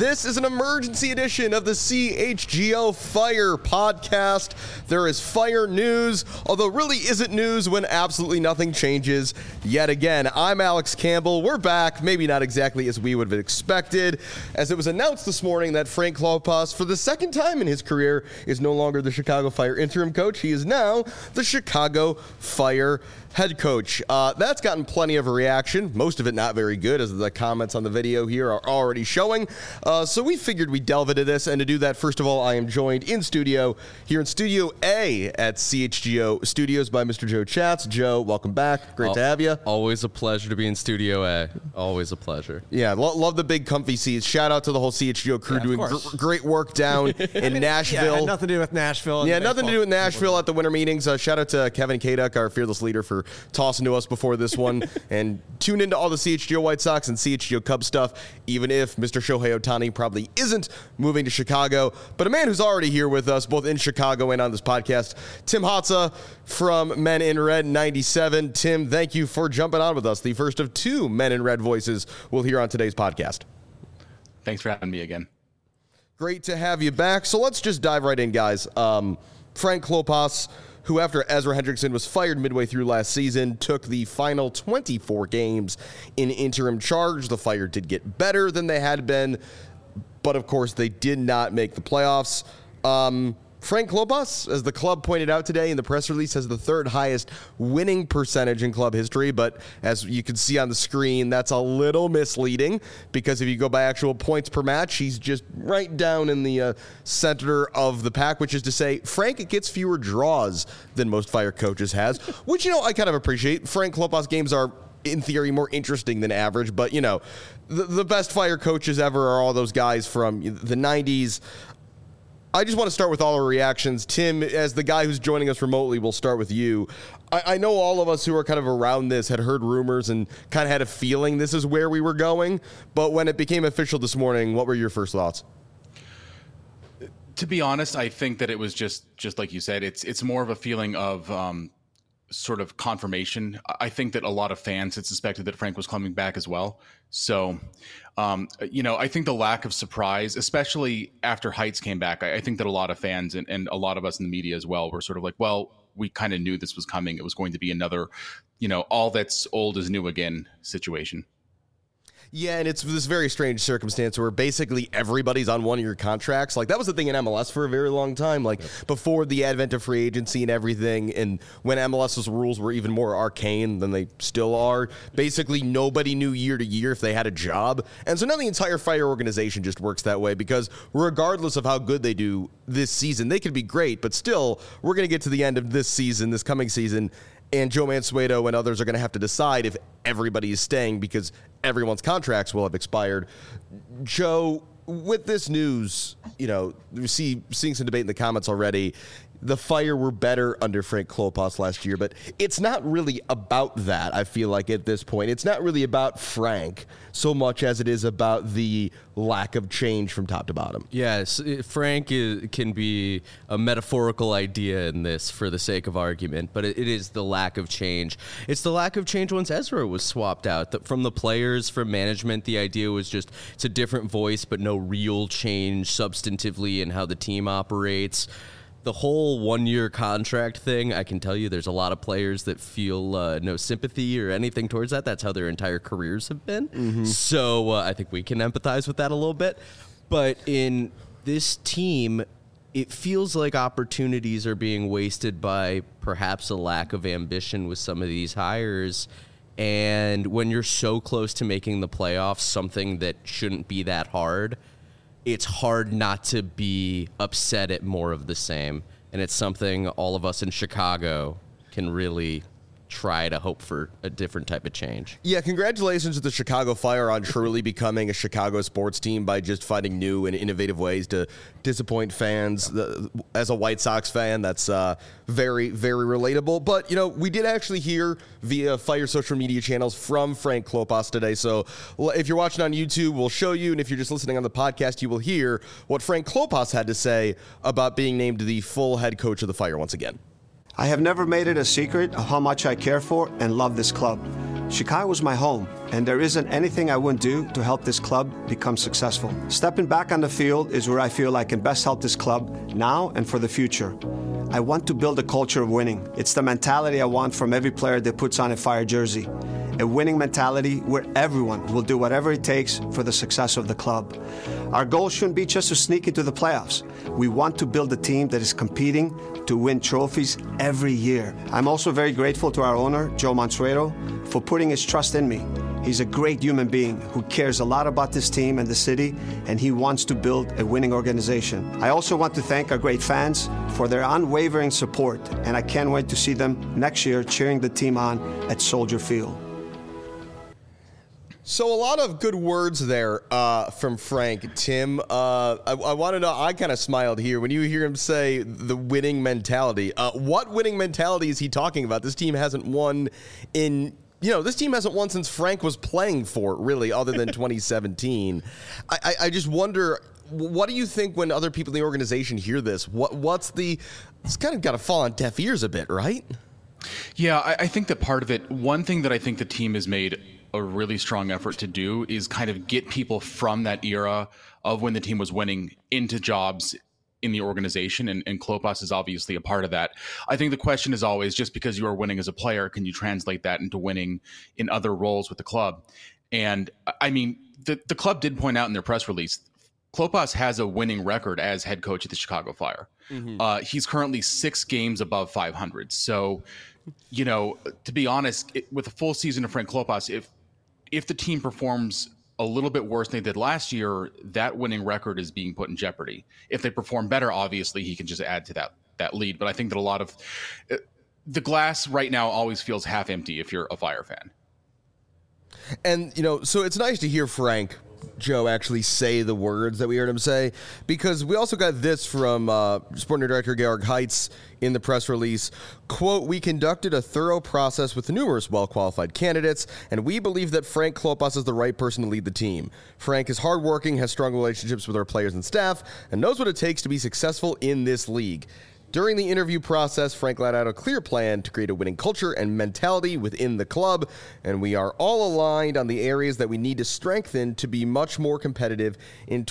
This is an emergency edition of the CHGO Fire podcast. There is fire news, although really isn't news when absolutely nothing changes yet again. I'm Alex Campbell. We're back, maybe not exactly as we would have expected, as it was announced this morning that Frank Klopas, for the second time in his career, is no longer the Chicago Fire interim coach. He is now the Chicago Fire head coach. That's gotten plenty of a reaction, most of it not very good, as the comments on the video here are already showing. So we figured we'd delve into this, and to do that, first of all, I am joined in studio, here in Studio A at CHGO Studios by Mr. Joe Chats. Joe, welcome back. Great to have you. Always a pleasure to be in Studio A. Always a pleasure. Yeah, love the big comfy seats. Shout out to the whole CHGO crew doing great work down in Nashville. Yeah, had nothing to do with Nashville. Yeah, nothing to do with Nashville at the winter meetings. Shout out to Kevin Kaduk, our fearless leader, for tossing to us before this one. And tune into all the CHGO White Sox and CHGO Cubs stuff, even if Mr. Shohei Ohtani probably isn't moving to Chicago. But a man who's already here with us, both in Chicago and on this podcast, Tim Hotza from Men in Red 97. Tim, thank you for jumping on with us. The first of two Men in Red voices we'll hear on today's podcast. Thanks for having me again. Great to have you back. So let's just dive right in, guys. Frank Klopas, who after Ezra Hendrickson was fired midway through last season, took the final 24 games in interim charge. The Fire did get better than they had been, but of course they did not make the playoffs. Frank Klopas, as the club pointed out today in the press release, has the third highest winning percentage in club history, but as you can see on the screen, that's a little misleading, because if you go by actual points per match, he's just right down in the center of the pack, which is to say Frank gets fewer draws than most Fire coaches has, which, I kind of appreciate. Frank Klopas games are, in theory, more interesting than average, but, the best Fire coaches ever are all those guys from the 90s. I just want to start with all our reactions. Tim, as the guy who's joining us remotely, we'll start with you. I know all of us who are kind of around this had heard rumors and kind of had a feeling this is where we were going, but when it became official this morning, what were your first thoughts? To be honest, I think that it was just like you said, it's more of a feeling of sort of confirmation. I think that a lot of fans had suspected that Frank was coming back as well. So, I think the lack of surprise, especially after Heights came back, I think that a lot of fans and a lot of us in the media as well were sort of like, well, we kind of knew this was coming. It was going to be another, all that's old is new again situation. Yeah, and it's this very strange circumstance where basically everybody's on one-year contracts. Like, that was the thing in MLS for a very long time, before the advent of free agency and everything, and when MLS's rules were even more arcane than they still are. Basically, nobody knew year to year if they had a job. And so now the entire Fire organization just works that way, because regardless of how good they do this season, they could be great, but still, we're going to get to the end of this season, this coming season, and Joe Mansueto and others are going to have to decide if everybody is staying because everyone's contracts will have expired. Joe, with this news, we seeing some debate in the comments already. The Fire were better under Frank Klopas last year, but it's not really about that, I feel like, at this point. It's not really about Frank so much as it is about the lack of change from top to bottom. Yes, Frank can be a metaphorical idea in this for the sake of argument, but it is the lack of change. It's the lack of change once Ezra was swapped out. From the players, from management, the idea was just it's a different voice, but no real change substantively in how the team operates. The whole one-year contract thing, I can tell you there's a lot of players that feel no sympathy or anything towards that. That's how their entire careers have been. Mm-hmm. So I think we can empathize with that a little bit. But in this team, it feels like opportunities are being wasted by perhaps a lack of ambition with some of these hires. And when you're so close to making the playoffs, something that shouldn't be that hard, it's hard not to be upset at more of the same. And it's something all of us in Chicago can really try to hope for a different type of change. Yeah, congratulations to the Chicago Fire on truly becoming a Chicago sports team by just finding new and innovative ways to disappoint fans. As a White Sox fan, that's very, very relatable. But, we did actually hear via Fire social media channels from Frank Klopas today. So if you're watching on YouTube, we'll show you. And if you're just listening on the podcast, you will hear what Frank Klopas had to say about being named the full head coach of the Fire once again. I have never made it a secret of how much I care for and love this club. Chicago is my home, and there isn't anything I wouldn't do to help this club become successful. Stepping back on the field is where I feel I can best help this club now and for the future. I want to build a culture of winning. It's the mentality I want from every player that puts on a Fire jersey. A winning mentality where everyone will do whatever it takes for the success of the club. Our goal shouldn't be just to sneak into the playoffs. We want to build a team that is competing to win trophies every year. I'm also very grateful to our owner, Joe Mansueto, for putting his trust in me. He's a great human being who cares a lot about this team and the city, and he wants to build a winning organization. I also want to thank our great fans for their unwavering support, and I can't wait to see them next year cheering the team on at Soldier Field. So a lot of good words there from Frank. Tim, I want to know, I kind of smiled here when you hear him say the winning mentality. What winning mentality is he talking about? This team hasn't won this team hasn't won since Frank was playing for it, really, other than 2017. I just wonder, what do you think when other people in the organization hear this? It's kind of got to fall on deaf ears a bit, right? Yeah, I think that part of it, one thing that I think the team has made a really strong effort to do is kind of get people from that era of when the team was winning into jobs in the organization, and Klopas is obviously a part of that. I think the question is always, just because you are winning as a player, can you translate that into winning in other roles with the club? And I mean, the club did point out in their press release, Klopas has a winning record as head coach at the Chicago Fire. Mm-hmm. He's currently 6 games above 500. So, to be honest, with a full season of Frank Klopas, if the team performs a little bit worse than they did last year, that winning record is being put in jeopardy. If they perform better, obviously he can just add to that lead. But I think that a lot of the glass right now always feels half empty if you're a Fire fan. And, so it's nice to hear Frank, Joe, actually say the words that we heard him say, because we also got this from Sporting Director Georg Heitz in the press release. Quote, "We conducted a thorough process with numerous well-qualified candidates, and we believe that Frank Klopas is the right person to lead the team. Frank is hardworking, has strong relationships with our players and staff, and knows what it takes to be successful in this league. During the interview process, Frank laid out a clear plan to create a winning culture and mentality within the club, and we are all aligned on the areas that we need to strengthen to be much more competitive in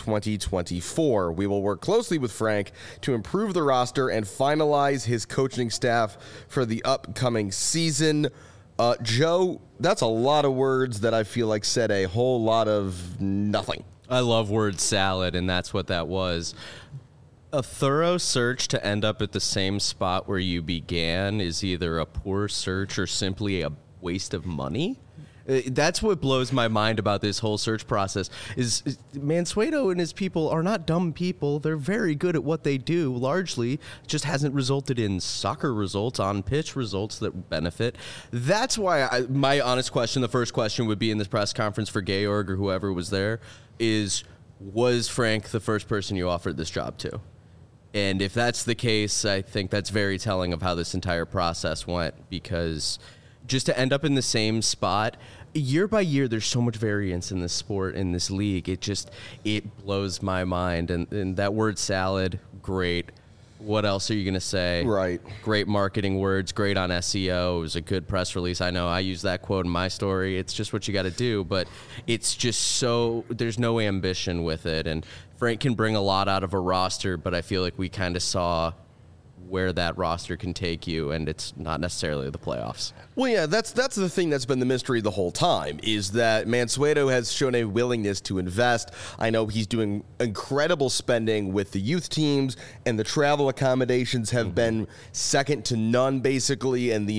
2024. We will work closely with Frank to improve the roster and finalize his coaching staff for the upcoming season." Joe, that's a lot of words that I feel like said a whole lot of nothing. I love word salad, and that's what that was. A thorough search to end up at the same spot where you began is either a poor search or simply a waste of money. That's what blows my mind about this whole search process is Mansueto and his people are not dumb people. They're very good at what they do. Largely just hasn't resulted in soccer results, on pitch results that benefit. That's why my honest question, the first question would be in this press conference for Georg or whoever was there is, was Frank the first person you offered this job to? And if that's the case, I think that's very telling of how this entire process went, because just to end up in the same spot year by year, there's so much variance in this sport, in this league. It blows my mind. And that word salad, great. What else are you going to say? Right. Great marketing words, great on SEO. It was a good press release. I know I use that quote in my story. It's just what you got to do, but it's just there's no ambition with it. And Frank can bring a lot out of a roster, but I feel like we kind of saw where that roster can take you, and it's not necessarily the playoffs. Well, yeah, that's the thing that's been the mystery the whole time, is that Mansueto has shown a willingness to invest. I know he's doing incredible spending with the youth teams, and the travel accommodations have been second to none, basically, and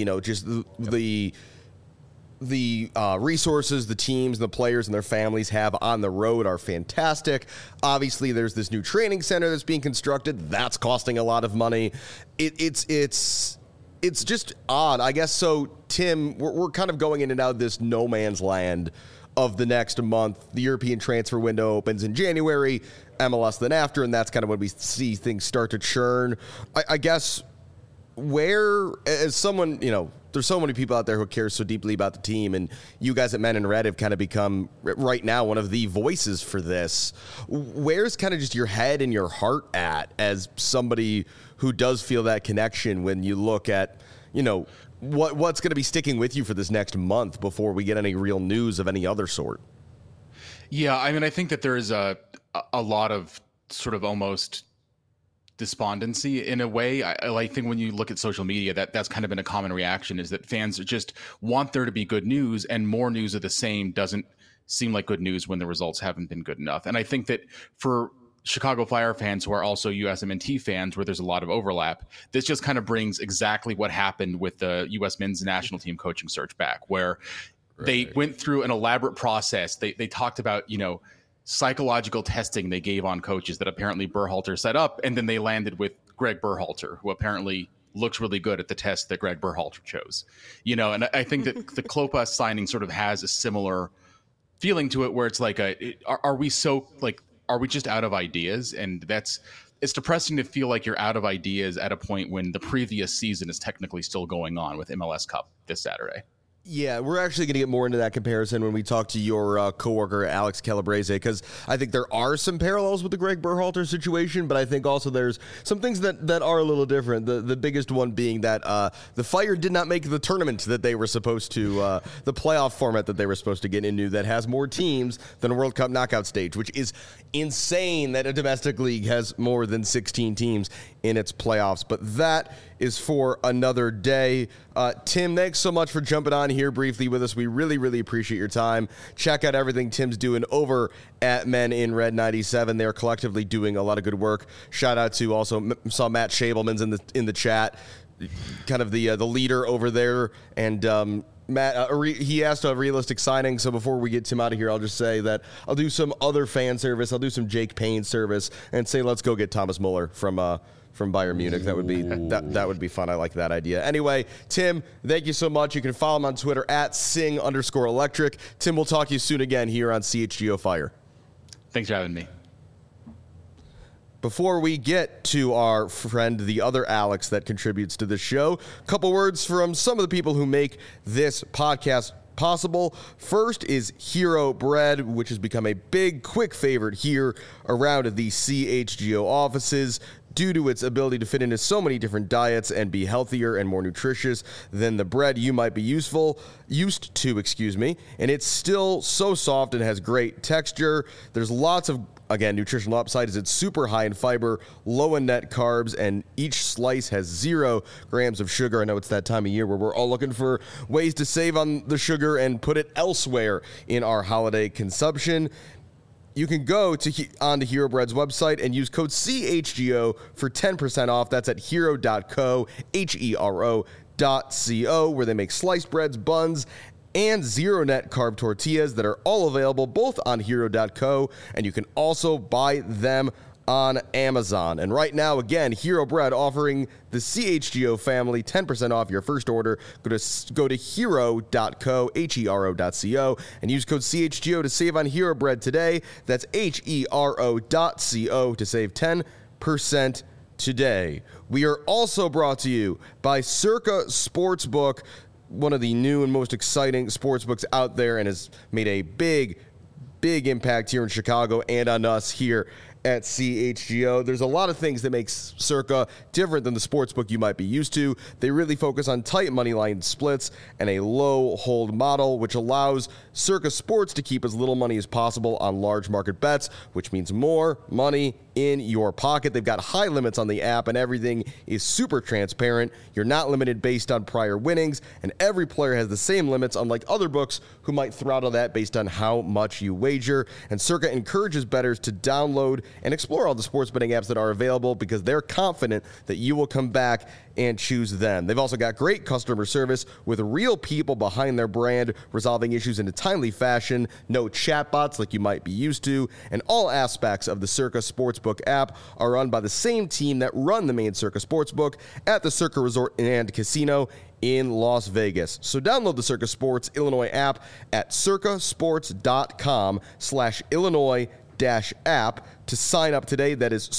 the resources the teams and the players and their families have on the road are fantastic. Obviously, there's this new training center that's being constructed. That's costing a lot of money. It's just odd, I guess. So, Tim, we're kind of going in and out of this no man's land of the next month. The European transfer window opens in January, MLS then after, and that's kind of when we see things start to churn. I guess where, as someone, there's so many people out there who care so deeply about the team, and you guys at Men in Red have kind of become, right now, one of the voices for this. Where's kind of just your head and your heart at as somebody who does feel that connection when you look at, what's going to be sticking with you for this next month before we get any real news of any other sort? Yeah, I mean, I think that there is a lot of sort of almost despondency in a way. I think when you look at social media, that's kind of been a common reaction, is that fans just want there to be good news, and more news of the same doesn't seem like good news when the results haven't been good enough. And I think that for Chicago Fire fans who are also USMNT fans, where there's a lot of overlap, this just kind of brings exactly what happened with the U.S. men's national team coaching search back, where they went through an elaborate process. They talked about, psychological testing they gave on coaches that apparently Berhalter set up, and then they landed with Greg Berhalter, who apparently looks really good at the test that Greg Berhalter chose. And I think that the Klopas signing sort of has a similar feeling to it, where it's like, are we just out of ideas? And it's depressing to feel like you're out of ideas at a point when the previous season is technically still going on with MLS Cup this Saturday. Yeah, we're actually going to get more into that comparison when we talk to your coworker, Alex Calabrese, because I think there are some parallels with the Greg Berhalter situation, but I think also there's some things that are a little different. The biggest one being that the Fire did not make the tournament that they were supposed to, the playoff format that they were supposed to get into that has more teams than a World Cup knockout stage, which is insane that a domestic league has more than 16 teams in its playoffs. But that is for another day. Tim, thanks so much for jumping on here briefly with us. We really, really appreciate your time. Check out everything Tim's doing over at Men in Red 97. They're collectively doing a lot of good work. Shout out to also saw Matt Schabelman's in the chat, kind of the leader over there. And Matt, he asked a realistic signing, so before we get Tim out of here, I'll just say that I'll do some other fan service. I'll do some Jake Payne service and say let's go get Thomas Muller from Bayern Munich. That would be fun. I like that idea. Anyway, Tim, thank you so much. You can follow him on Twitter at @sing_electric. Tim, we'll talk to you soon again here on CHGO Fire. Thanks for having me. Before we get to our friend, the other Alex that contributes to this show, a couple words from some of the people who make this podcast possible. First is Hero Bread, which has become a big, quick favorite here around the CHGO offices due to its ability to fit into so many different diets and be healthier and more nutritious than the bread you might be used to, and it's still so soft and has great texture. There's lots of, again, nutritional upside as it's super high in fiber, low in net carbs, and each slice has 0 grams of sugar. I know it's that time of year where we're all looking for ways to save on the sugar and put it elsewhere in our holiday consumption. You can go onto Hero Bread's website and use code CHGO for 10% off. That's at hero.co, HERO.co, where they make sliced breads, buns, and 0 net carb tortillas that are all available both on hero.co, and you can also buy them on Amazon. And right now, again, Hero Bread offering the CHGO family 10% off your first order. Go to hero.co, HERO.co, and use code CHGO to save on Hero Bread today. That's HERO.co to save 10% today. We are also brought to you by Circa Sportsbook, one of the new and most exciting sportsbooks out there, and has made a big impact here in Chicago and on us here at CHGO. There's a lot of things that makes Circa different than the sportsbook you might be used to. They really focus on tight money line splits and a low hold model, which allows Circa Sports to keep as little money as possible on large market bets, which means more money in your pocket. They've got high limits on the app, and everything is super transparent. You're not limited based on prior winnings, and every player has the same limits, unlike other books who might throttle that based on how much you wager. And Circa encourages bettors to download and explore all the sports betting apps that are available because they're confident that you will come back and choose them. They've also got great customer service with real people behind their brand, resolving issues in a timely fashion, no chatbots like you might be used to, and all aspects of the Circa Sportsbook app are run by the same team that run the main Circa Sportsbook at the Circa Resort and Casino in Las Vegas. So download the Circa Sports Illinois app at circasports.com/Illinois-app to sign up today. That is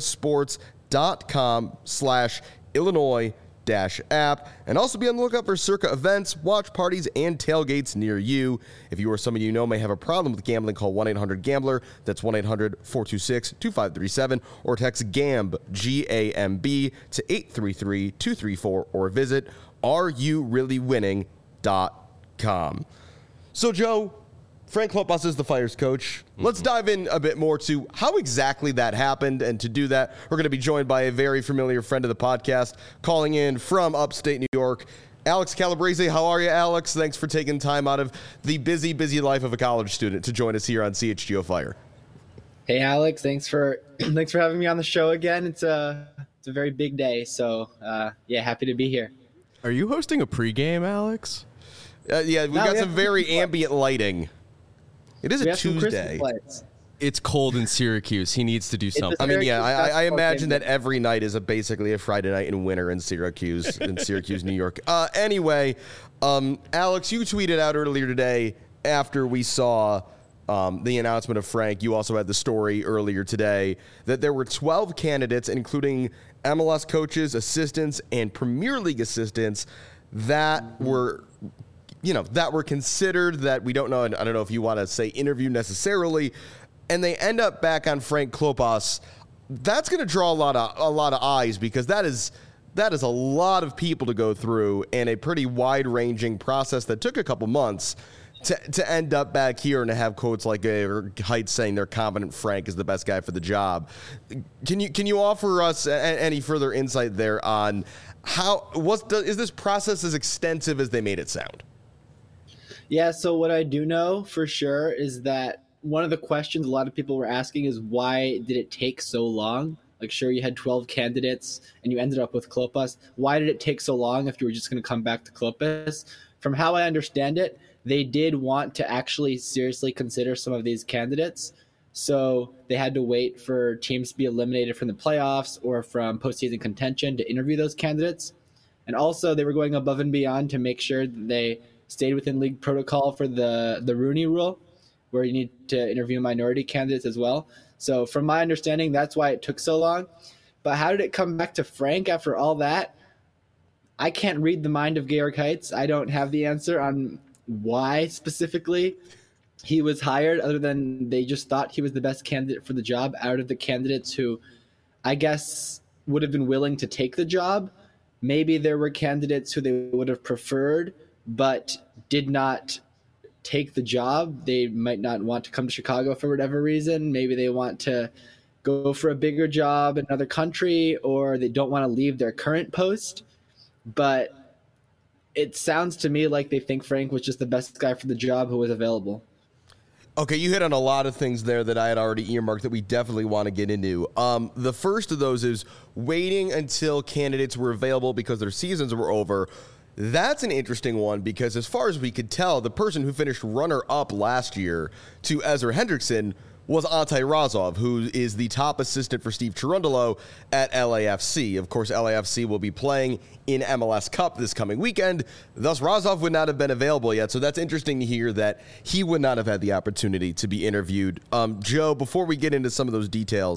circasports.com/Illinois-app, and also be on the lookout for Circa events, watch parties, and tailgates near you. If you or someone you know may have a problem with gambling, call 1-800-GAMBLER. That's 1-800-426-2537, or text GAMB, G-A-M-B, to 833-234, or visit areyoureallywinning.com. So, Joe, Frank Klopas is the Fire's coach. Let's dive in a bit more to how exactly that happened. And to do that, we're going to be joined by a very familiar friend of the podcast, calling in from upstate New York, Alex Calabrese. How are you, Alex? Thanks for taking time out of the busy life of a college student to join us here on CHGO Fire. Hey, Alex. Thanks for having me on the show again. It's a very big day. So, happy to be here. Are you hosting a pregame, Alex? We got some very ambient lighting. It is a Tuesday. It's cold in Syracuse. He needs to do something. I mean, I imagine that every night is basically a Friday night in winter in Syracuse, New York. Anyway, Alex, you tweeted out earlier today after we saw the announcement of Frank. You also had the story earlier today that there were 12 candidates, including MLS coaches, assistants, and Premier League assistants that were considered, that we don't know. And I don't know if you want to say interview necessarily, and they end up back on Frank Klopas. That's going to draw a lot of eyes, because that is a lot of people to go through, and a pretty wide ranging process that took a couple months to end up back here and to have quotes like Heights saying they're confident Frank is the best guy for the job. Can you offer us any further insight there on is this process as extensive as they made it sound? Yeah, so what I do know for sure is that one of the questions a lot of people were asking is, why did it take so long? Like, sure, you had 12 candidates and you ended up with Klopas. Why did it take so long if you were just going to come back to Klopas? From how I understand it, they did want to actually seriously consider some of these candidates. So they had to wait for teams to be eliminated from the playoffs or from postseason contention to interview those candidates. And also they were going above and beyond to make sure that they stayed within league protocol for the Rooney Rule, where you need to interview minority candidates as well. So from my understanding, that's why it took so long. But how did it come back to Frank after all that? I can't read the mind of Georg Heitz. I don't have the answer on why specifically he was hired, other than they just thought he was the best candidate for the job out of the candidates who I guess would have been willing to take the job. Maybe there were candidates who they would have preferred but did not take the job. They might not want to come to Chicago for whatever reason. Maybe they want to go for a bigger job in another country, or they don't want to leave their current post. But it sounds to me like they think Frank was just the best guy for the job who was available. Okay, you hit on a lot of things there that I had already earmarked that we definitely want to get into. The first of those is waiting until candidates were available because their seasons were over. That's an interesting one, because as far as we could tell, the person who finished runner-up last year to Ezra Hendrickson was Ante Razov, who is the top assistant for Steve Cherundolo at LAFC. Of course, LAFC will be playing in MLS Cup this coming weekend. Thus, Razov would not have been available yet. So that's interesting to hear that he would not have had the opportunity to be interviewed. Joe, before we get into some of those details,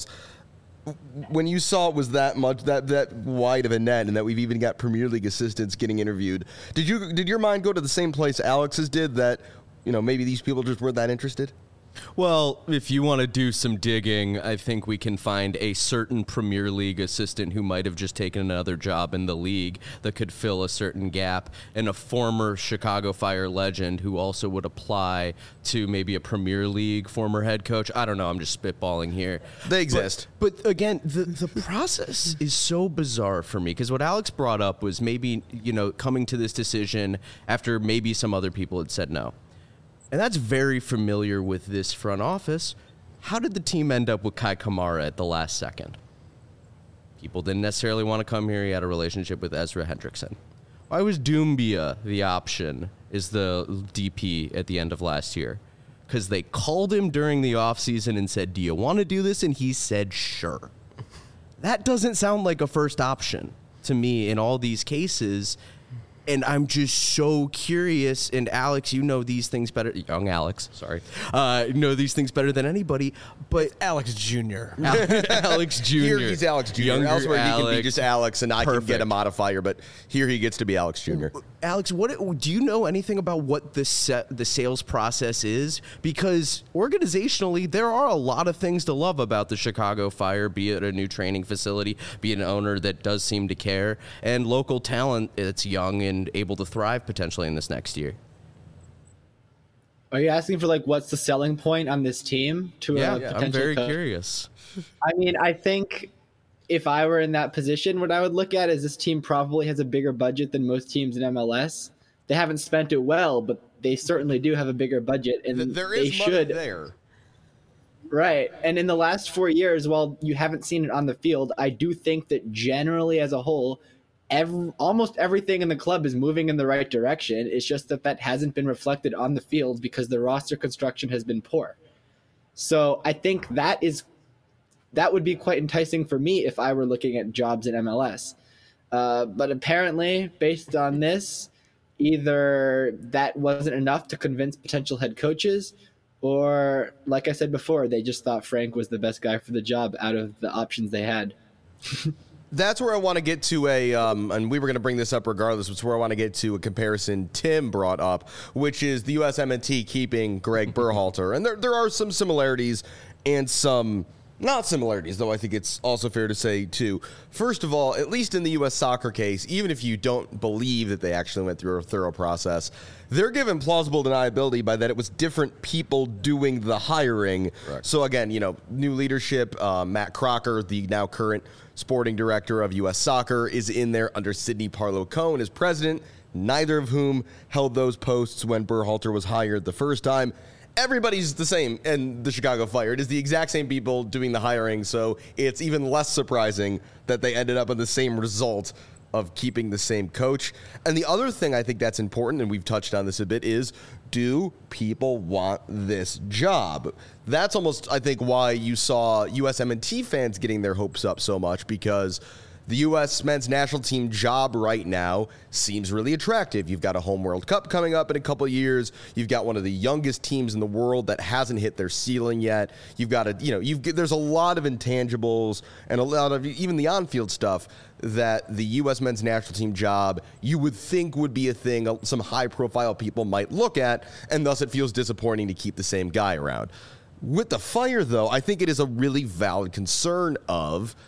when you saw it was that much, that wide of a net, and that we've even got Premier League assistants getting interviewed, did your mind go to the same place Alex's did, that maybe these people just weren't that interested? Well, if you want to do some digging, I think we can find a certain Premier League assistant who might have just taken another job in the league that could fill a certain gap, and a former Chicago Fire legend who also would apply to maybe a Premier League former head coach. I don't know. I'm just spitballing here. They exist. But again, the process is so bizarre for me, because what Alex brought up was maybe, coming to this decision after maybe some other people had said no. And that's very familiar with this front office. How did the team end up with Kai Kamara at the last second? People didn't necessarily want to come here. He had a relationship with Ezra Hendrickson. Why was Doumbia the option as the DP at the end of last year? Because they called him during the offseason and said, do you want to do this? And he said, sure. That doesn't sound like a first option to me in all these cases. And I'm just so curious, and Alex, you know these things better. Young Alex, sorry. Know these things better than anybody, but... Alex Jr. Alex Jr. Here he's Alex Jr. Younger Elsewhere Alex. he can be just Alex, and I Perfect. can get a modifier, but here he gets to be Alex Jr. Alex, do you know anything about what the sales process is? Because organizationally, there are a lot of things to love about the Chicago Fire, be it a new training facility, be it an owner that does seem to care, and local talent that's young and and able to thrive potentially in this next year. Are you asking for like what's the selling point on this team to a potential I'm very coach? curious. I mean, I think if I were in that position, what I would look at is this team probably has a bigger budget than most teams in MLS. They haven't spent it well, but they certainly do have a bigger budget, and There they is money should. there. Right. And in the last 4 years, while you haven't seen it on the field, I do think that generally as a whole, almost everything in the club is moving in the right direction. It's just that hasn't been reflected on the field because the roster construction has been poor. So I think that would be quite enticing for me if I were looking at jobs in MLS. But apparently, based on this, either that wasn't enough to convince potential head coaches, or, like I said before, they just thought Frank was the best guy for the job out of the options they had. That's where I want to get to and we were going to bring this up regardless, but it's where I want to get to a comparison Tim brought up, which is the USMNT keeping Greg Berhalter. And there are some similarities and some not similarities, though I think it's also fair to say, too. First of all, at least in the U.S. soccer case, even if you don't believe that they actually went through a thorough process, they're given plausible deniability by that it was different people doing the hiring. Correct. So, again, new leadership, Matt Crocker, the now current sporting director of U.S. Soccer, is in there under Sidney Parlow-Cohen as president, neither of whom held those posts when Berhalter was hired the first time. Everybody's the same in the Chicago Fire. It is the exact same people doing the hiring, so it's even less surprising that they ended up in the same result of keeping the same coach. And the other thing I think that's important, and we've touched on this a bit, is do people want this job? That's almost, I think, why you saw USMNT fans getting their hopes up so much, because the U.S. men's national team job right now seems really attractive. You've got a home World Cup coming up in a couple of years. You've got one of the youngest teams in the world that hasn't hit their ceiling yet. You've got there's a lot of intangibles and a lot of even the on-field stuff that the U.S. men's national team job you would think would be a thing some high-profile people might look at, and thus it feels disappointing to keep the same guy around. With the Fire, though, I think it is a really valid concern of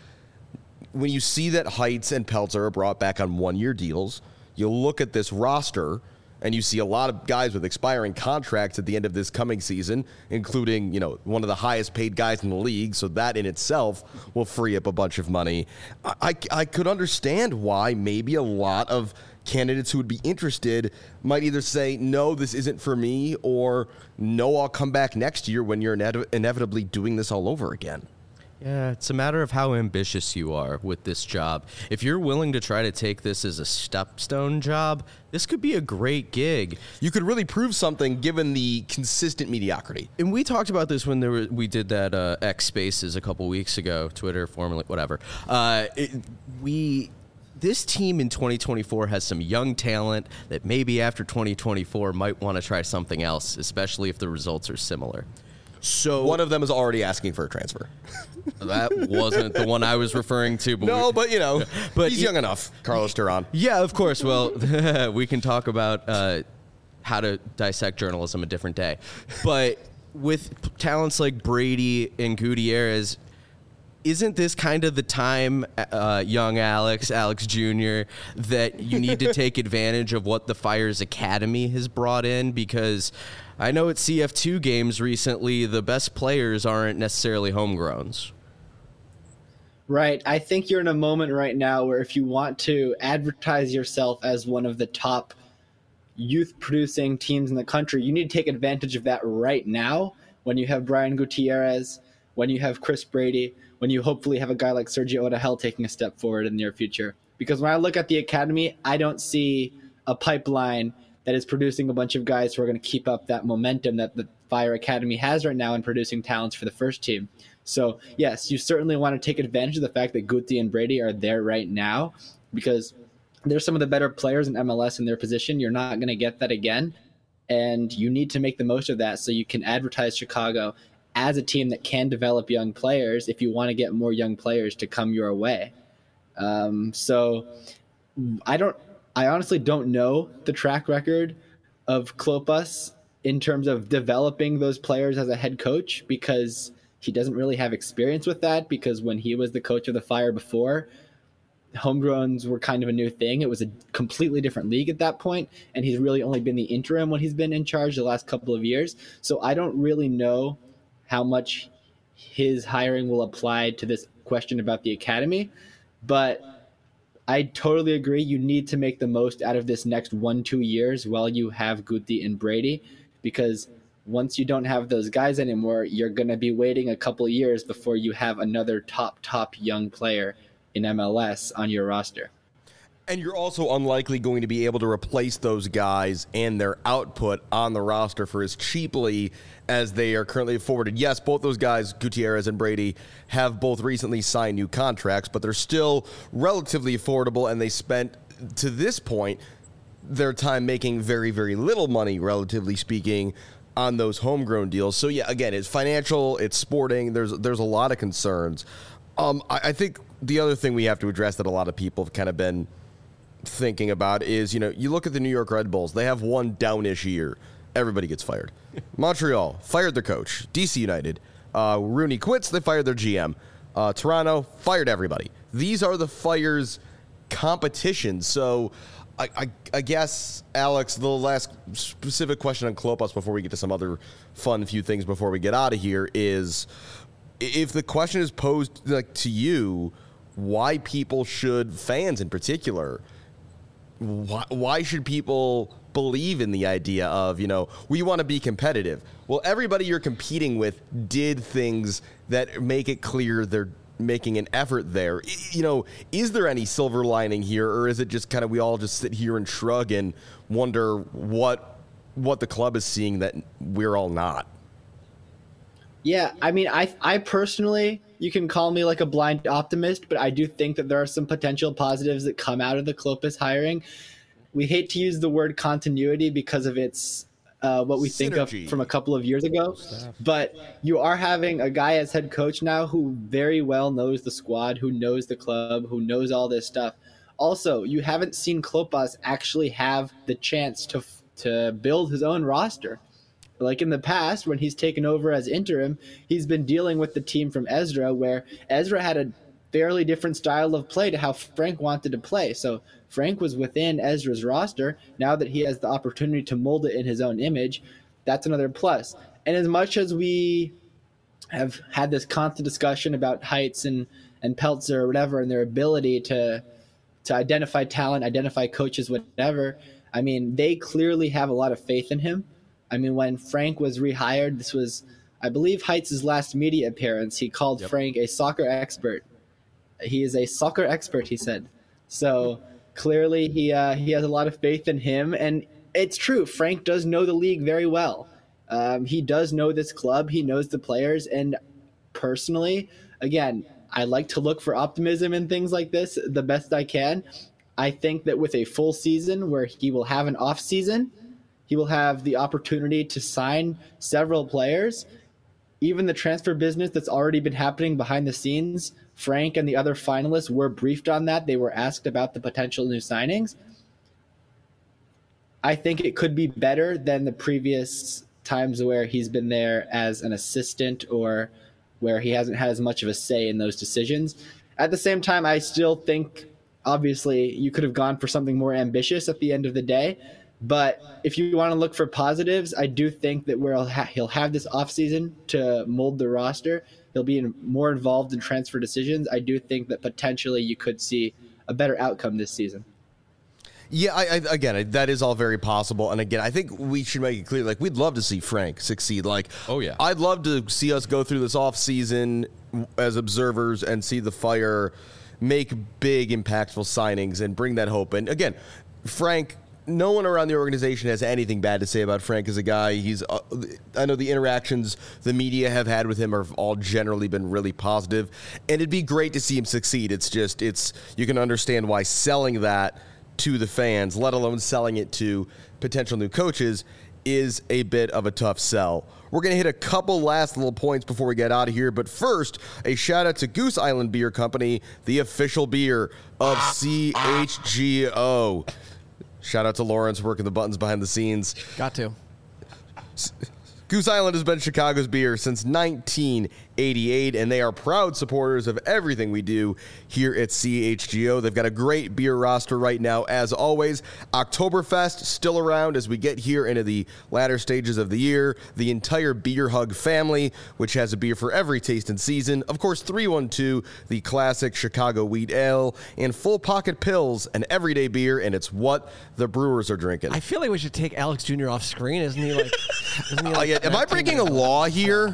when you see that Heights and Peltzer are brought back on one-year deals, you look at this roster and you see a lot of guys with expiring contracts at the end of this coming season, including, one of the highest paid guys in the league. So that in itself will free up a bunch of money. I could understand why maybe a lot of candidates who would be interested might either say, no, this isn't for me, or no, I'll come back next year when you're inevitably doing this all over again. Yeah, it's a matter of how ambitious you are with this job. If you're willing to try to take this as a stepstone job, this could be a great gig. You could really prove something given the consistent mediocrity. And we talked about this when we did that X Spaces a couple weeks ago, Twitter, formerly, whatever. This team in 2024 has some young talent that maybe after 2024 might want to try something else, especially if the results are similar. So one of them is already asking for a transfer. That wasn't the one I was referring to. But he's young enough, Carlos Duran. Yeah, of course. Well, we can talk about how to dissect journalism a different day. But with talents like Brady and Gutierrez, isn't this kind of the time, young Alex Jr., that you need to take advantage of what the Fire's Academy has brought in? Because I know at CF2 games recently, the best players aren't necessarily homegrowns. Right. I think you're in a moment right now where if you want to advertise yourself as one of the top youth-producing teams in the country, you need to take advantage of that right now when you have Brian Gutierrez, when you have Chris Brady, when you hopefully have a guy like Sergio Odahel taking a step forward in the near future. Because when I look at the academy, I don't see a pipeline that is producing a bunch of guys who are going to keep up that momentum that the Fire Academy has right now in producing talents for the first team. So, yes, you certainly want to take advantage of the fact that Guti and Brady are there right now, because they're some of the better players in MLS in their position. You're not going to get that again, and you need to make the most of that so you can advertise Chicago as a team that can develop young players if you want to get more young players to come your way. So I honestly don't know the track record of Klopas in terms of developing those players as a head coach, because he doesn't really have experience with that, because when he was the coach of the Fire before, homegrowns were kind of a new thing. It was a completely different league at that point, and he's really only been the interim when he's been in charge the last couple of years. So I don't really know how much his hiring will apply to this question about the academy, but I totally agree. You need to make the most out of this next 1-2 years while you have Guti and Brady, because once you don't have those guys anymore, you're going to be waiting a couple of years before you have another top young player in MLS on your roster. And you're also unlikely going to be able to replace those guys and their output on the roster for as cheaply as they are currently afforded. Yes, both those guys, Gutierrez and Brady, have both recently signed new contracts, but they're still relatively affordable, and they spent, to this point, their time making very, very little money, relatively speaking, on those homegrown deals. So, yeah, again, it's financial, it's sporting, there's a lot of concerns. I think the other thing we have to address that a lot of people have kind of been thinking about is, you look at the New York Red Bulls, they have one downish year. Everybody gets fired. Montreal fired their coach. DC United, Rooney quits, they fired their GM. Toronto fired everybody. These are the fires competition. So I guess, Alex, the last specific question on Klopas before we get to some other fun few things before we get out of here is, if the question is posed to you, why fans in particular, why should people believe in the idea of, we want to be competitive? Well, everybody you're competing with did things that make it clear they're making an effort there. Is there any silver lining here, or is it just kind of we all just sit here and shrug and wonder what the club is seeing that we're all not? Yeah, I mean, I personally, you can call me like a blind optimist, but I do think that there are some potential positives that come out of the Klopas hiring. We hate to use the word continuity because of its what we think of from a couple of years ago, but you are having a guy as head coach now who very well knows the squad, who knows the club, who knows all this stuff. Also, you haven't seen Klopas actually have the chance to build his own roster. Like in the past, when he's taken over as interim, he's been dealing with the team from Ezra, where Ezra had a fairly different style of play to how Frank wanted to play. So Frank was within Ezra's roster. Now that he has the opportunity to mold it in his own image, that's another plus. And as much as we have had this constant discussion about Heights and Peltzer or whatever, and their ability to identify talent, identify coaches, whatever, I mean, they clearly have a lot of faith in him. I mean, when Frank was rehired, this was, I believe, Heights' last media appearance. He called Frank a soccer expert. He is a soccer expert, he said. So clearly he has a lot of faith in him. And it's true. Frank does know the league very well. He does know this club. He knows the players. And personally, again, I like to look for optimism in things like this the best I can. I think that with a full season where he will have an off season, he will have the opportunity to sign several players. Even the transfer business that's already been happening behind the scenes, Frank and the other finalists were briefed on that. They were asked about the potential new signings. I think it could be better than the previous times where he's been there as an assistant or where he hasn't had as much of a say in those decisions. At the same time, I still think, obviously, you could have gone for something more ambitious at the end of the day. But if you want to look for positives, I do think that he'll have this offseason to mold the roster. He'll be more involved in transfer decisions. I do think that potentially you could see a better outcome this season. Yeah, again, that is all very possible. And again, I think we should make it clear, we'd love to see Frank succeed. Oh, yeah. I'd love to see us go through this offseason as observers and see the Fire make big, impactful signings and bring that hope. And again, Frank, no one around the organization has anything bad to say about Frank as a guy. I know the interactions the media have had with him have all generally been really positive, and it'd be great to see him succeed. You can understand why selling that to the fans, let alone selling it to potential new coaches, is a bit of a tough sell. We're going to hit a couple last little points before we get out of here, but first, a shout out to Goose Island Beer Company, the official beer of CHGO. Shout out to Lawrence working the buttons behind the scenes. Got to. Goose Island has been Chicago's beer since 1980. 88, and they are proud supporters of everything we do here at CHGO. They've got a great beer roster right now, as always. Oktoberfest still around as we get here into the latter stages of the year. The entire Beer Hug family, which has a beer for every taste and season. Of course, 312, the classic Chicago wheat ale, and Full Pocket Pills, an everyday beer, and it's what the brewers are drinking. I feel like we should take Alex Jr. off screen. Isn't he like? Am I breaking a law here?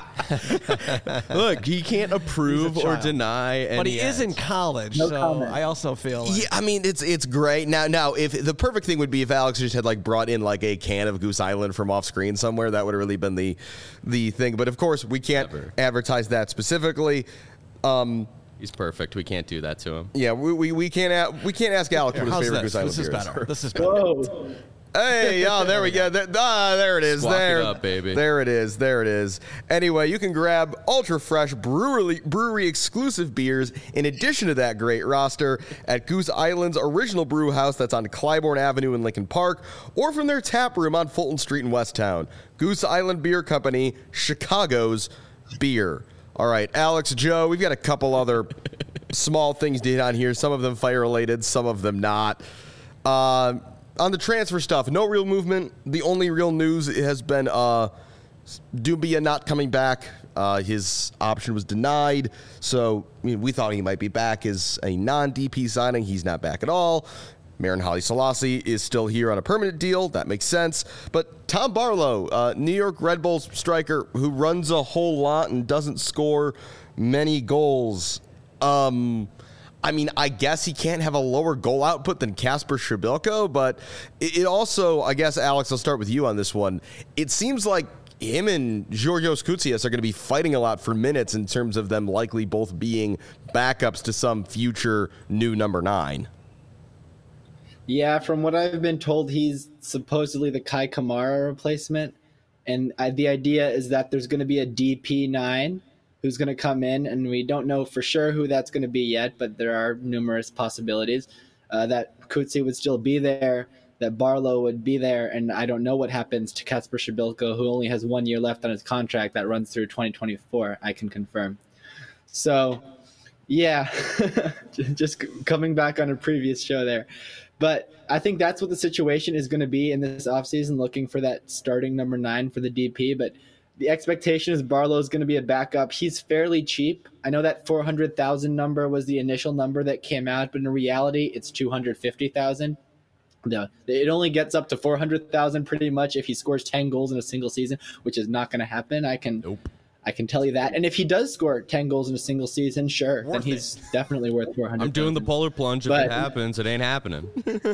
Look, he can't approve or deny any but he is in college, No so comment. I also feel like Yeah, I mean it's great. Now, if the perfect thing would be if Alex just had like brought in like a can of Goose Island from off screen somewhere, that would have really been the thing. But of course, we can't advertise that specifically. He's perfect. We can't do that to him. Yeah, we can't ask Alex what his how's favorite this? Goose Island This is beer is. better. This is better. Whoa. Hey, yeah, there we go. There it is. Squawk there, it up, baby. There it is. There it is. Anyway, you can grab ultra fresh brewery exclusive beers in addition to that great roster at Goose Island's original brew house that's on Clybourne Avenue in Lincoln Park, or from their tap room on Fulton Street in Westtown. Goose Island Beer Company, Chicago's beer. All right, Alex, Joe, we've got a couple other small things to hit on here. Some of them fire related, some of them not. On the transfer stuff, no real movement. The only real news has been Doumbia not coming back. His option was denied. So we thought he might be back as a non-DP signing. He's not back at all. Marin Haile Selassie is still here on a permanent deal. That makes sense. But Tom Barlow, New York Red Bulls striker who runs a whole lot and doesn't score many goals. I mean, I guess he can't have a lower goal output than Kasper Schrebelko, but it also, I guess, Alex, I'll start with you on this one. It seems like him and Georgios Koutsias are going to be fighting a lot for minutes in terms of them likely both being backups to some future new number 9. Yeah, from what I've been told, he's supposedly the Kai Kamara replacement. And the idea is that there's going to be a DP9 who's going to come in, and we don't know for sure who that's going to be yet, but there are numerous possibilities that Kutsi would still be there, that Barlow would be there, and I don't know what happens to Kasper Schrebelko, who only has 1 year left on his contract that runs through 2024, I can confirm. So, yeah, just coming back on a previous show there. But I think that's what the situation is going to be in this offseason, looking for that starting number 9 for the DP, but the expectation is Barlow is going to be a backup. He's fairly cheap. I know that 400,000 number was the initial number that came out, but in reality, it's 250,000. No, it only gets up to 400,000 pretty much if he scores 10 goals in a single season, which is not going to happen. I can tell you that. And if he does score 10 goals in a single season, sure, then he's definitely worth 400,000. I'm doing the polar plunge. If it happens, it ain't happening.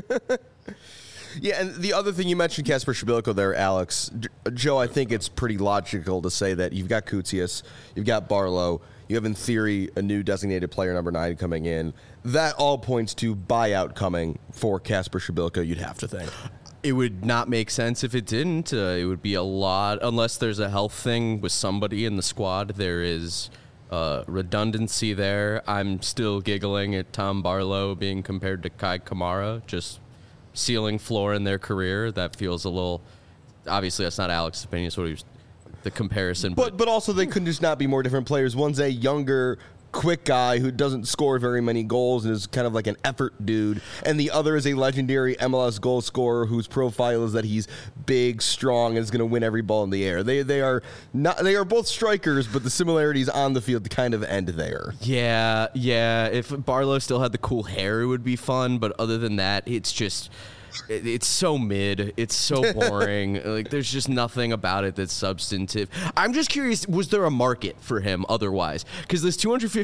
Yeah, and the other thing you mentioned, Kasper Schrebelko there, Alex. Joe, I think it's pretty logical to say that you've got Koutsias, you've got Barlow, you have in theory a new designated player number 9 coming in. That all points to buyout coming for Kasper Schrebelko, you'd have to think. It would not make sense if it didn't. It would be a lot, unless there's a health thing with somebody in the squad. There is redundancy there. I'm still giggling at Tom Barlow being compared to Kai Kamara, just ceiling floor in their career. That feels a little, obviously that's not Alex's opinion, it's what he was, the comparison. But also they couldn't just not be more different players. One's a younger, quick guy who doesn't score very many goals and is kind of like an effort dude, and the other is a legendary MLS goal scorer whose profile is that he's big, strong, and is going to win every ball in the air. They are both strikers, but the similarities on the field kind of end there. Yeah. If Barlow still had the cool hair, it would be fun. But other than that, it's just, it's so mid. It's so boring. Like, there's just nothing about it that's substantive. I'm just curious, was there a market for him otherwise? Because this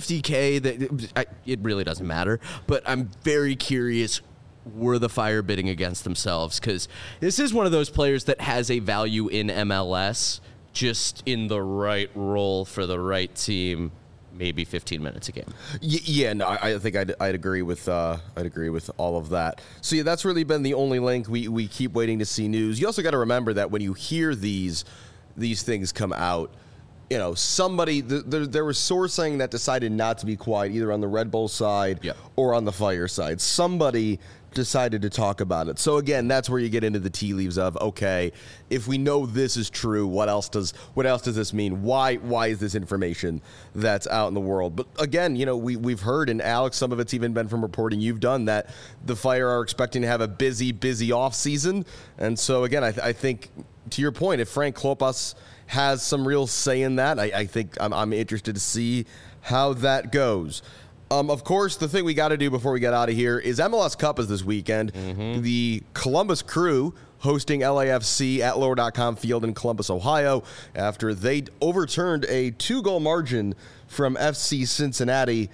$250K, it really doesn't matter. But I'm very curious, were the Fire bidding against themselves? Because this is one of those players that has a value in MLS, just in the right role for the right team. Maybe 15 minutes a game. Yeah, no, I think I'd agree with all of that. So yeah, that's really been the only link. We keep waiting to see news. You also got to remember that when you hear these things come out, you know, somebody there was sourcing that decided not to be quiet either on the Red Bull side or on the Fire side. Somebody decided to talk about it. So again, that's where you get into the tea leaves of, okay, if we know this is true, what else does this mean? Why is this information that's out in the world? But again, we've heard, and Alex, some of it's even been from reporting you've done, that the Fire are expecting to have a busy off season. And so again, I think to your point, if Frank Klopas has some real say in that, I think I'm interested to see how that goes. Of course, the thing we got to do before we get out of here is MLS Cup is this weekend. The Columbus Crew hosting LAFC at Lower.com Field in Columbus, Ohio, after they overturned a 2-goal margin from FC Cincinnati.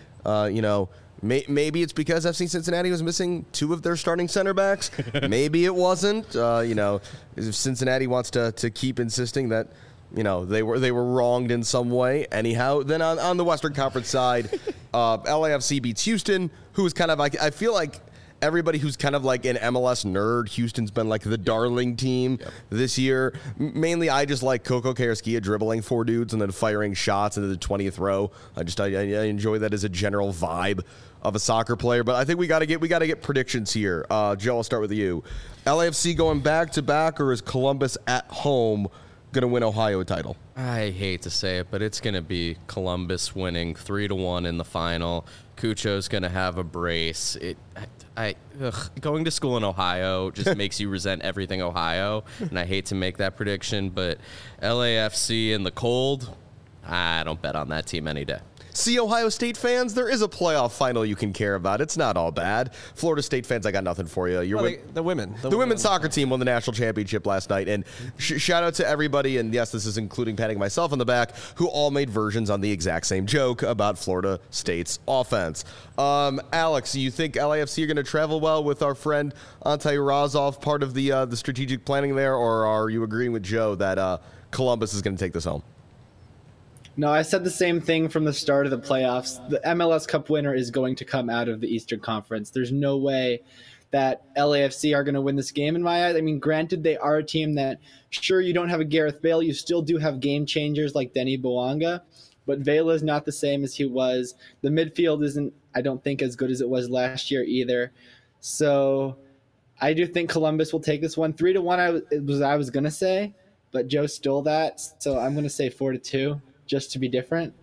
Maybe it's because FC Cincinnati was missing 2 of their starting center backs. Maybe it wasn't. If Cincinnati wants to keep insisting that they were wronged in some way. Anyhow, then on the Western Conference side, LAFC beats Houston, who's kind of like, I feel like everybody who's kind of like an MLS nerd, Houston's been like the darling team this year. Mainly, I just like Coco Carrasquilla dribbling 4 dudes and then firing shots into the 20th row. I enjoy that as a general vibe of a soccer player. But I think we got to get predictions here. Joe, I'll start with you. LAFC going back to back, or is Columbus at home going to win Ohio title? I hate to say it, but it's going to be Columbus winning 3-1 in the final. Cucho's going to have a brace. Going to school in Ohio just makes you resent everything Ohio, and I hate to make that prediction, but LAFC in the cold, I don't bet on that team any day. See, Ohio State fans, there is a playoff final you can care about. It's not all bad. Florida State fans, I got nothing for you. The women's soccer team won the national championship last night. And shout out to everybody, and yes, this is including patting myself on the back, who all made versions on the exact same joke about Florida State's offense. Alex, you think LAFC are going to travel well with our friend Ante Razov, part of the strategic planning there, or are you agreeing with Joe that Columbus is going to take this home? No, I said the same thing from the start of the playoffs. The MLS Cup winner is going to come out of the Eastern Conference. There's no way that LAFC are going to win this game in my eyes. I mean, granted, they are a team that, sure, you don't have a Gareth Bale. You still do have game changers like Denny Bouanga, but Vela is not the same as he was. The midfield isn't, I don't think, as good as it was last year either. So I do think Columbus will take this one. 3-1 I was going to say, but Joe stole that. So I'm going to say 4-2. Just to be different.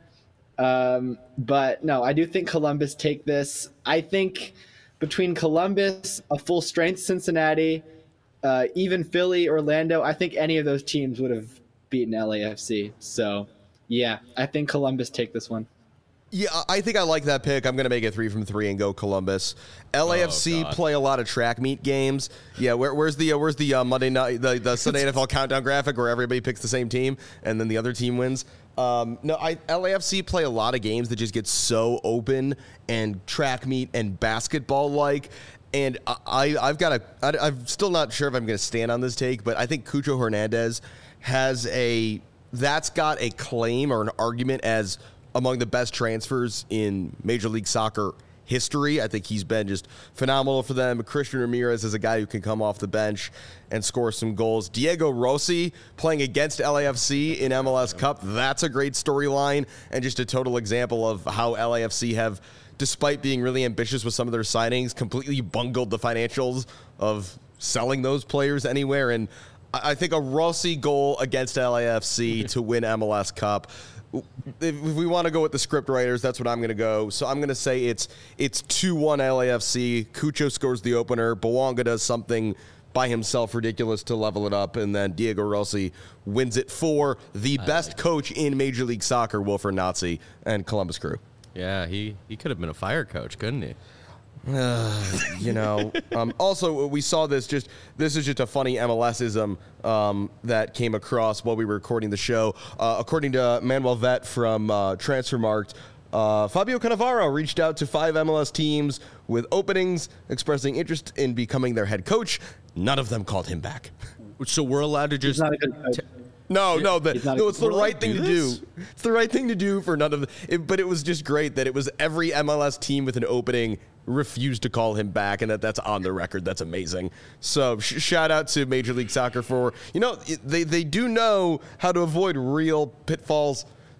But no, I do think Columbus take this. I think between Columbus, a full-strength Cincinnati, even Philly, Orlando, I think any of those teams would have beaten LAFC. So, yeah, I think Columbus take this one. Yeah, I think I like that pick. I'm going to make it 3 from 3 and go Columbus. LAFC play a lot of track meet games. Yeah, where's the Monday night, the Sunday NFL countdown graphic where everybody picks the same team and then the other team wins? LAFC play a lot of games that just get so open and track meet and basketball like. And I'm still not sure if I'm going to stand on this take, but I think Cucho Hernandez that's got a claim or an argument as among the best transfers in Major League Soccer history. I think he's been just phenomenal for them. Christian Ramirez is a guy who can come off the bench and score some goals. Diego Rossi playing against LAFC in MLS Cup. That's a great storyline and just a total example of how LAFC have, despite being really ambitious with some of their signings, completely bungled the financials of selling those players anywhere. And I think a Rossi goal against LAFC to win MLS Cup. If we want to go with the script writers, that's what I'm going to go. So I'm going to say it's 2-1 LAFC. Cucho scores the opener. Bouanga does something by himself ridiculous to level it up, and then Diego Rossi wins it for the best coach in Major League Soccer, Wilfred Nazi, and Columbus Crew. Yeah, he could have been a fire coach, couldn't he? Also, we saw this is just a funny MLS-ism that came across while we were recording the show. According to Manuel Vet from Transfermarkt, Fabio Cannavaro reached out to 5 MLS teams with openings, expressing interest in becoming their head coach. None of them called him back. So we're allowed to just... He's not a good coach. It's the right thing to do. It's the right thing to do for none of them. But it was just great that it was every MLS team with an opening refused to call him back, and that's on the record. That's amazing. So shout out to Major League Soccer for, they do know how to avoid real pitfalls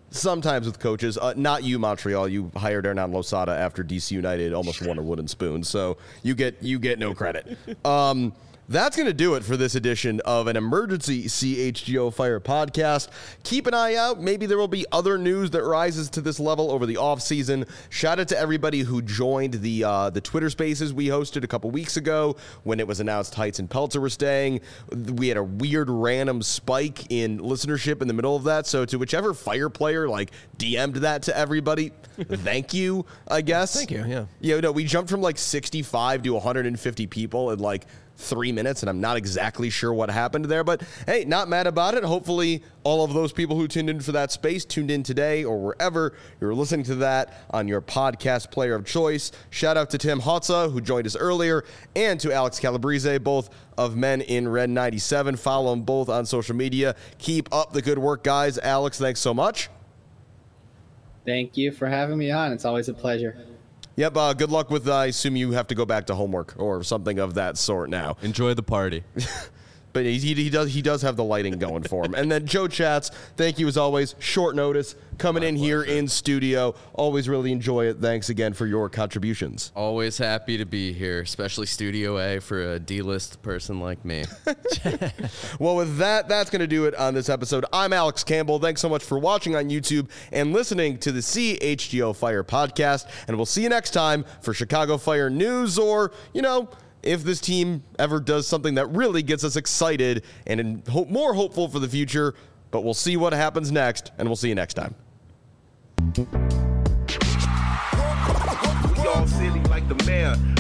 sometimes with coaches. Not you, Montreal. You hired Hernan Losada after DC United almost won a wooden spoon, so you get no credit. That's going to do it for this edition of an emergency CHGO Fire podcast. Keep an eye out. Maybe there will be other news that rises to this level over the offseason. Shout out to everybody who joined the Twitter Spaces we hosted a couple weeks ago when it was announced Heights and Peltzer were staying. We had a weird random spike in listenership in the middle of that. So to whichever Fire player DM'd that to everybody, thank you, I guess. Thank you, yeah. We jumped from 65 to 150 people in 3 minutes, and I'm not exactly sure what happened there, but hey, not mad about it. Hopefully all of those people who tuned in for that space tuned in today or wherever you're listening to that on your podcast player of choice. Shout out to Tim Hotza, who joined us earlier, and to Alex Calabrese, both of Men in Red 97. Follow them both on social media. Keep up the good work, guys. Alex, thanks so much. Thank you for having me on. It's always a pleasure. Yep, good luck with, I assume you have to go back to homework or something of that sort now. Enjoy the party. But he does have the lighting going for him. And then Joe Chats, thank you as always. Short notice, coming in here in studio. Always really enjoy it. Thanks again for your contributions. Always happy to be here, especially Studio A for a D-list person like me. Well, with that's going to do it on this episode. I'm Alex Campbell. Thanks so much for watching on YouTube and listening to the CHGO Fire podcast. And we'll see you next time for Chicago Fire news or, if this team ever does something that really gets us excited and more hopeful for the future. But we'll see what happens next, and we'll see you next time. We all silly like the mayor.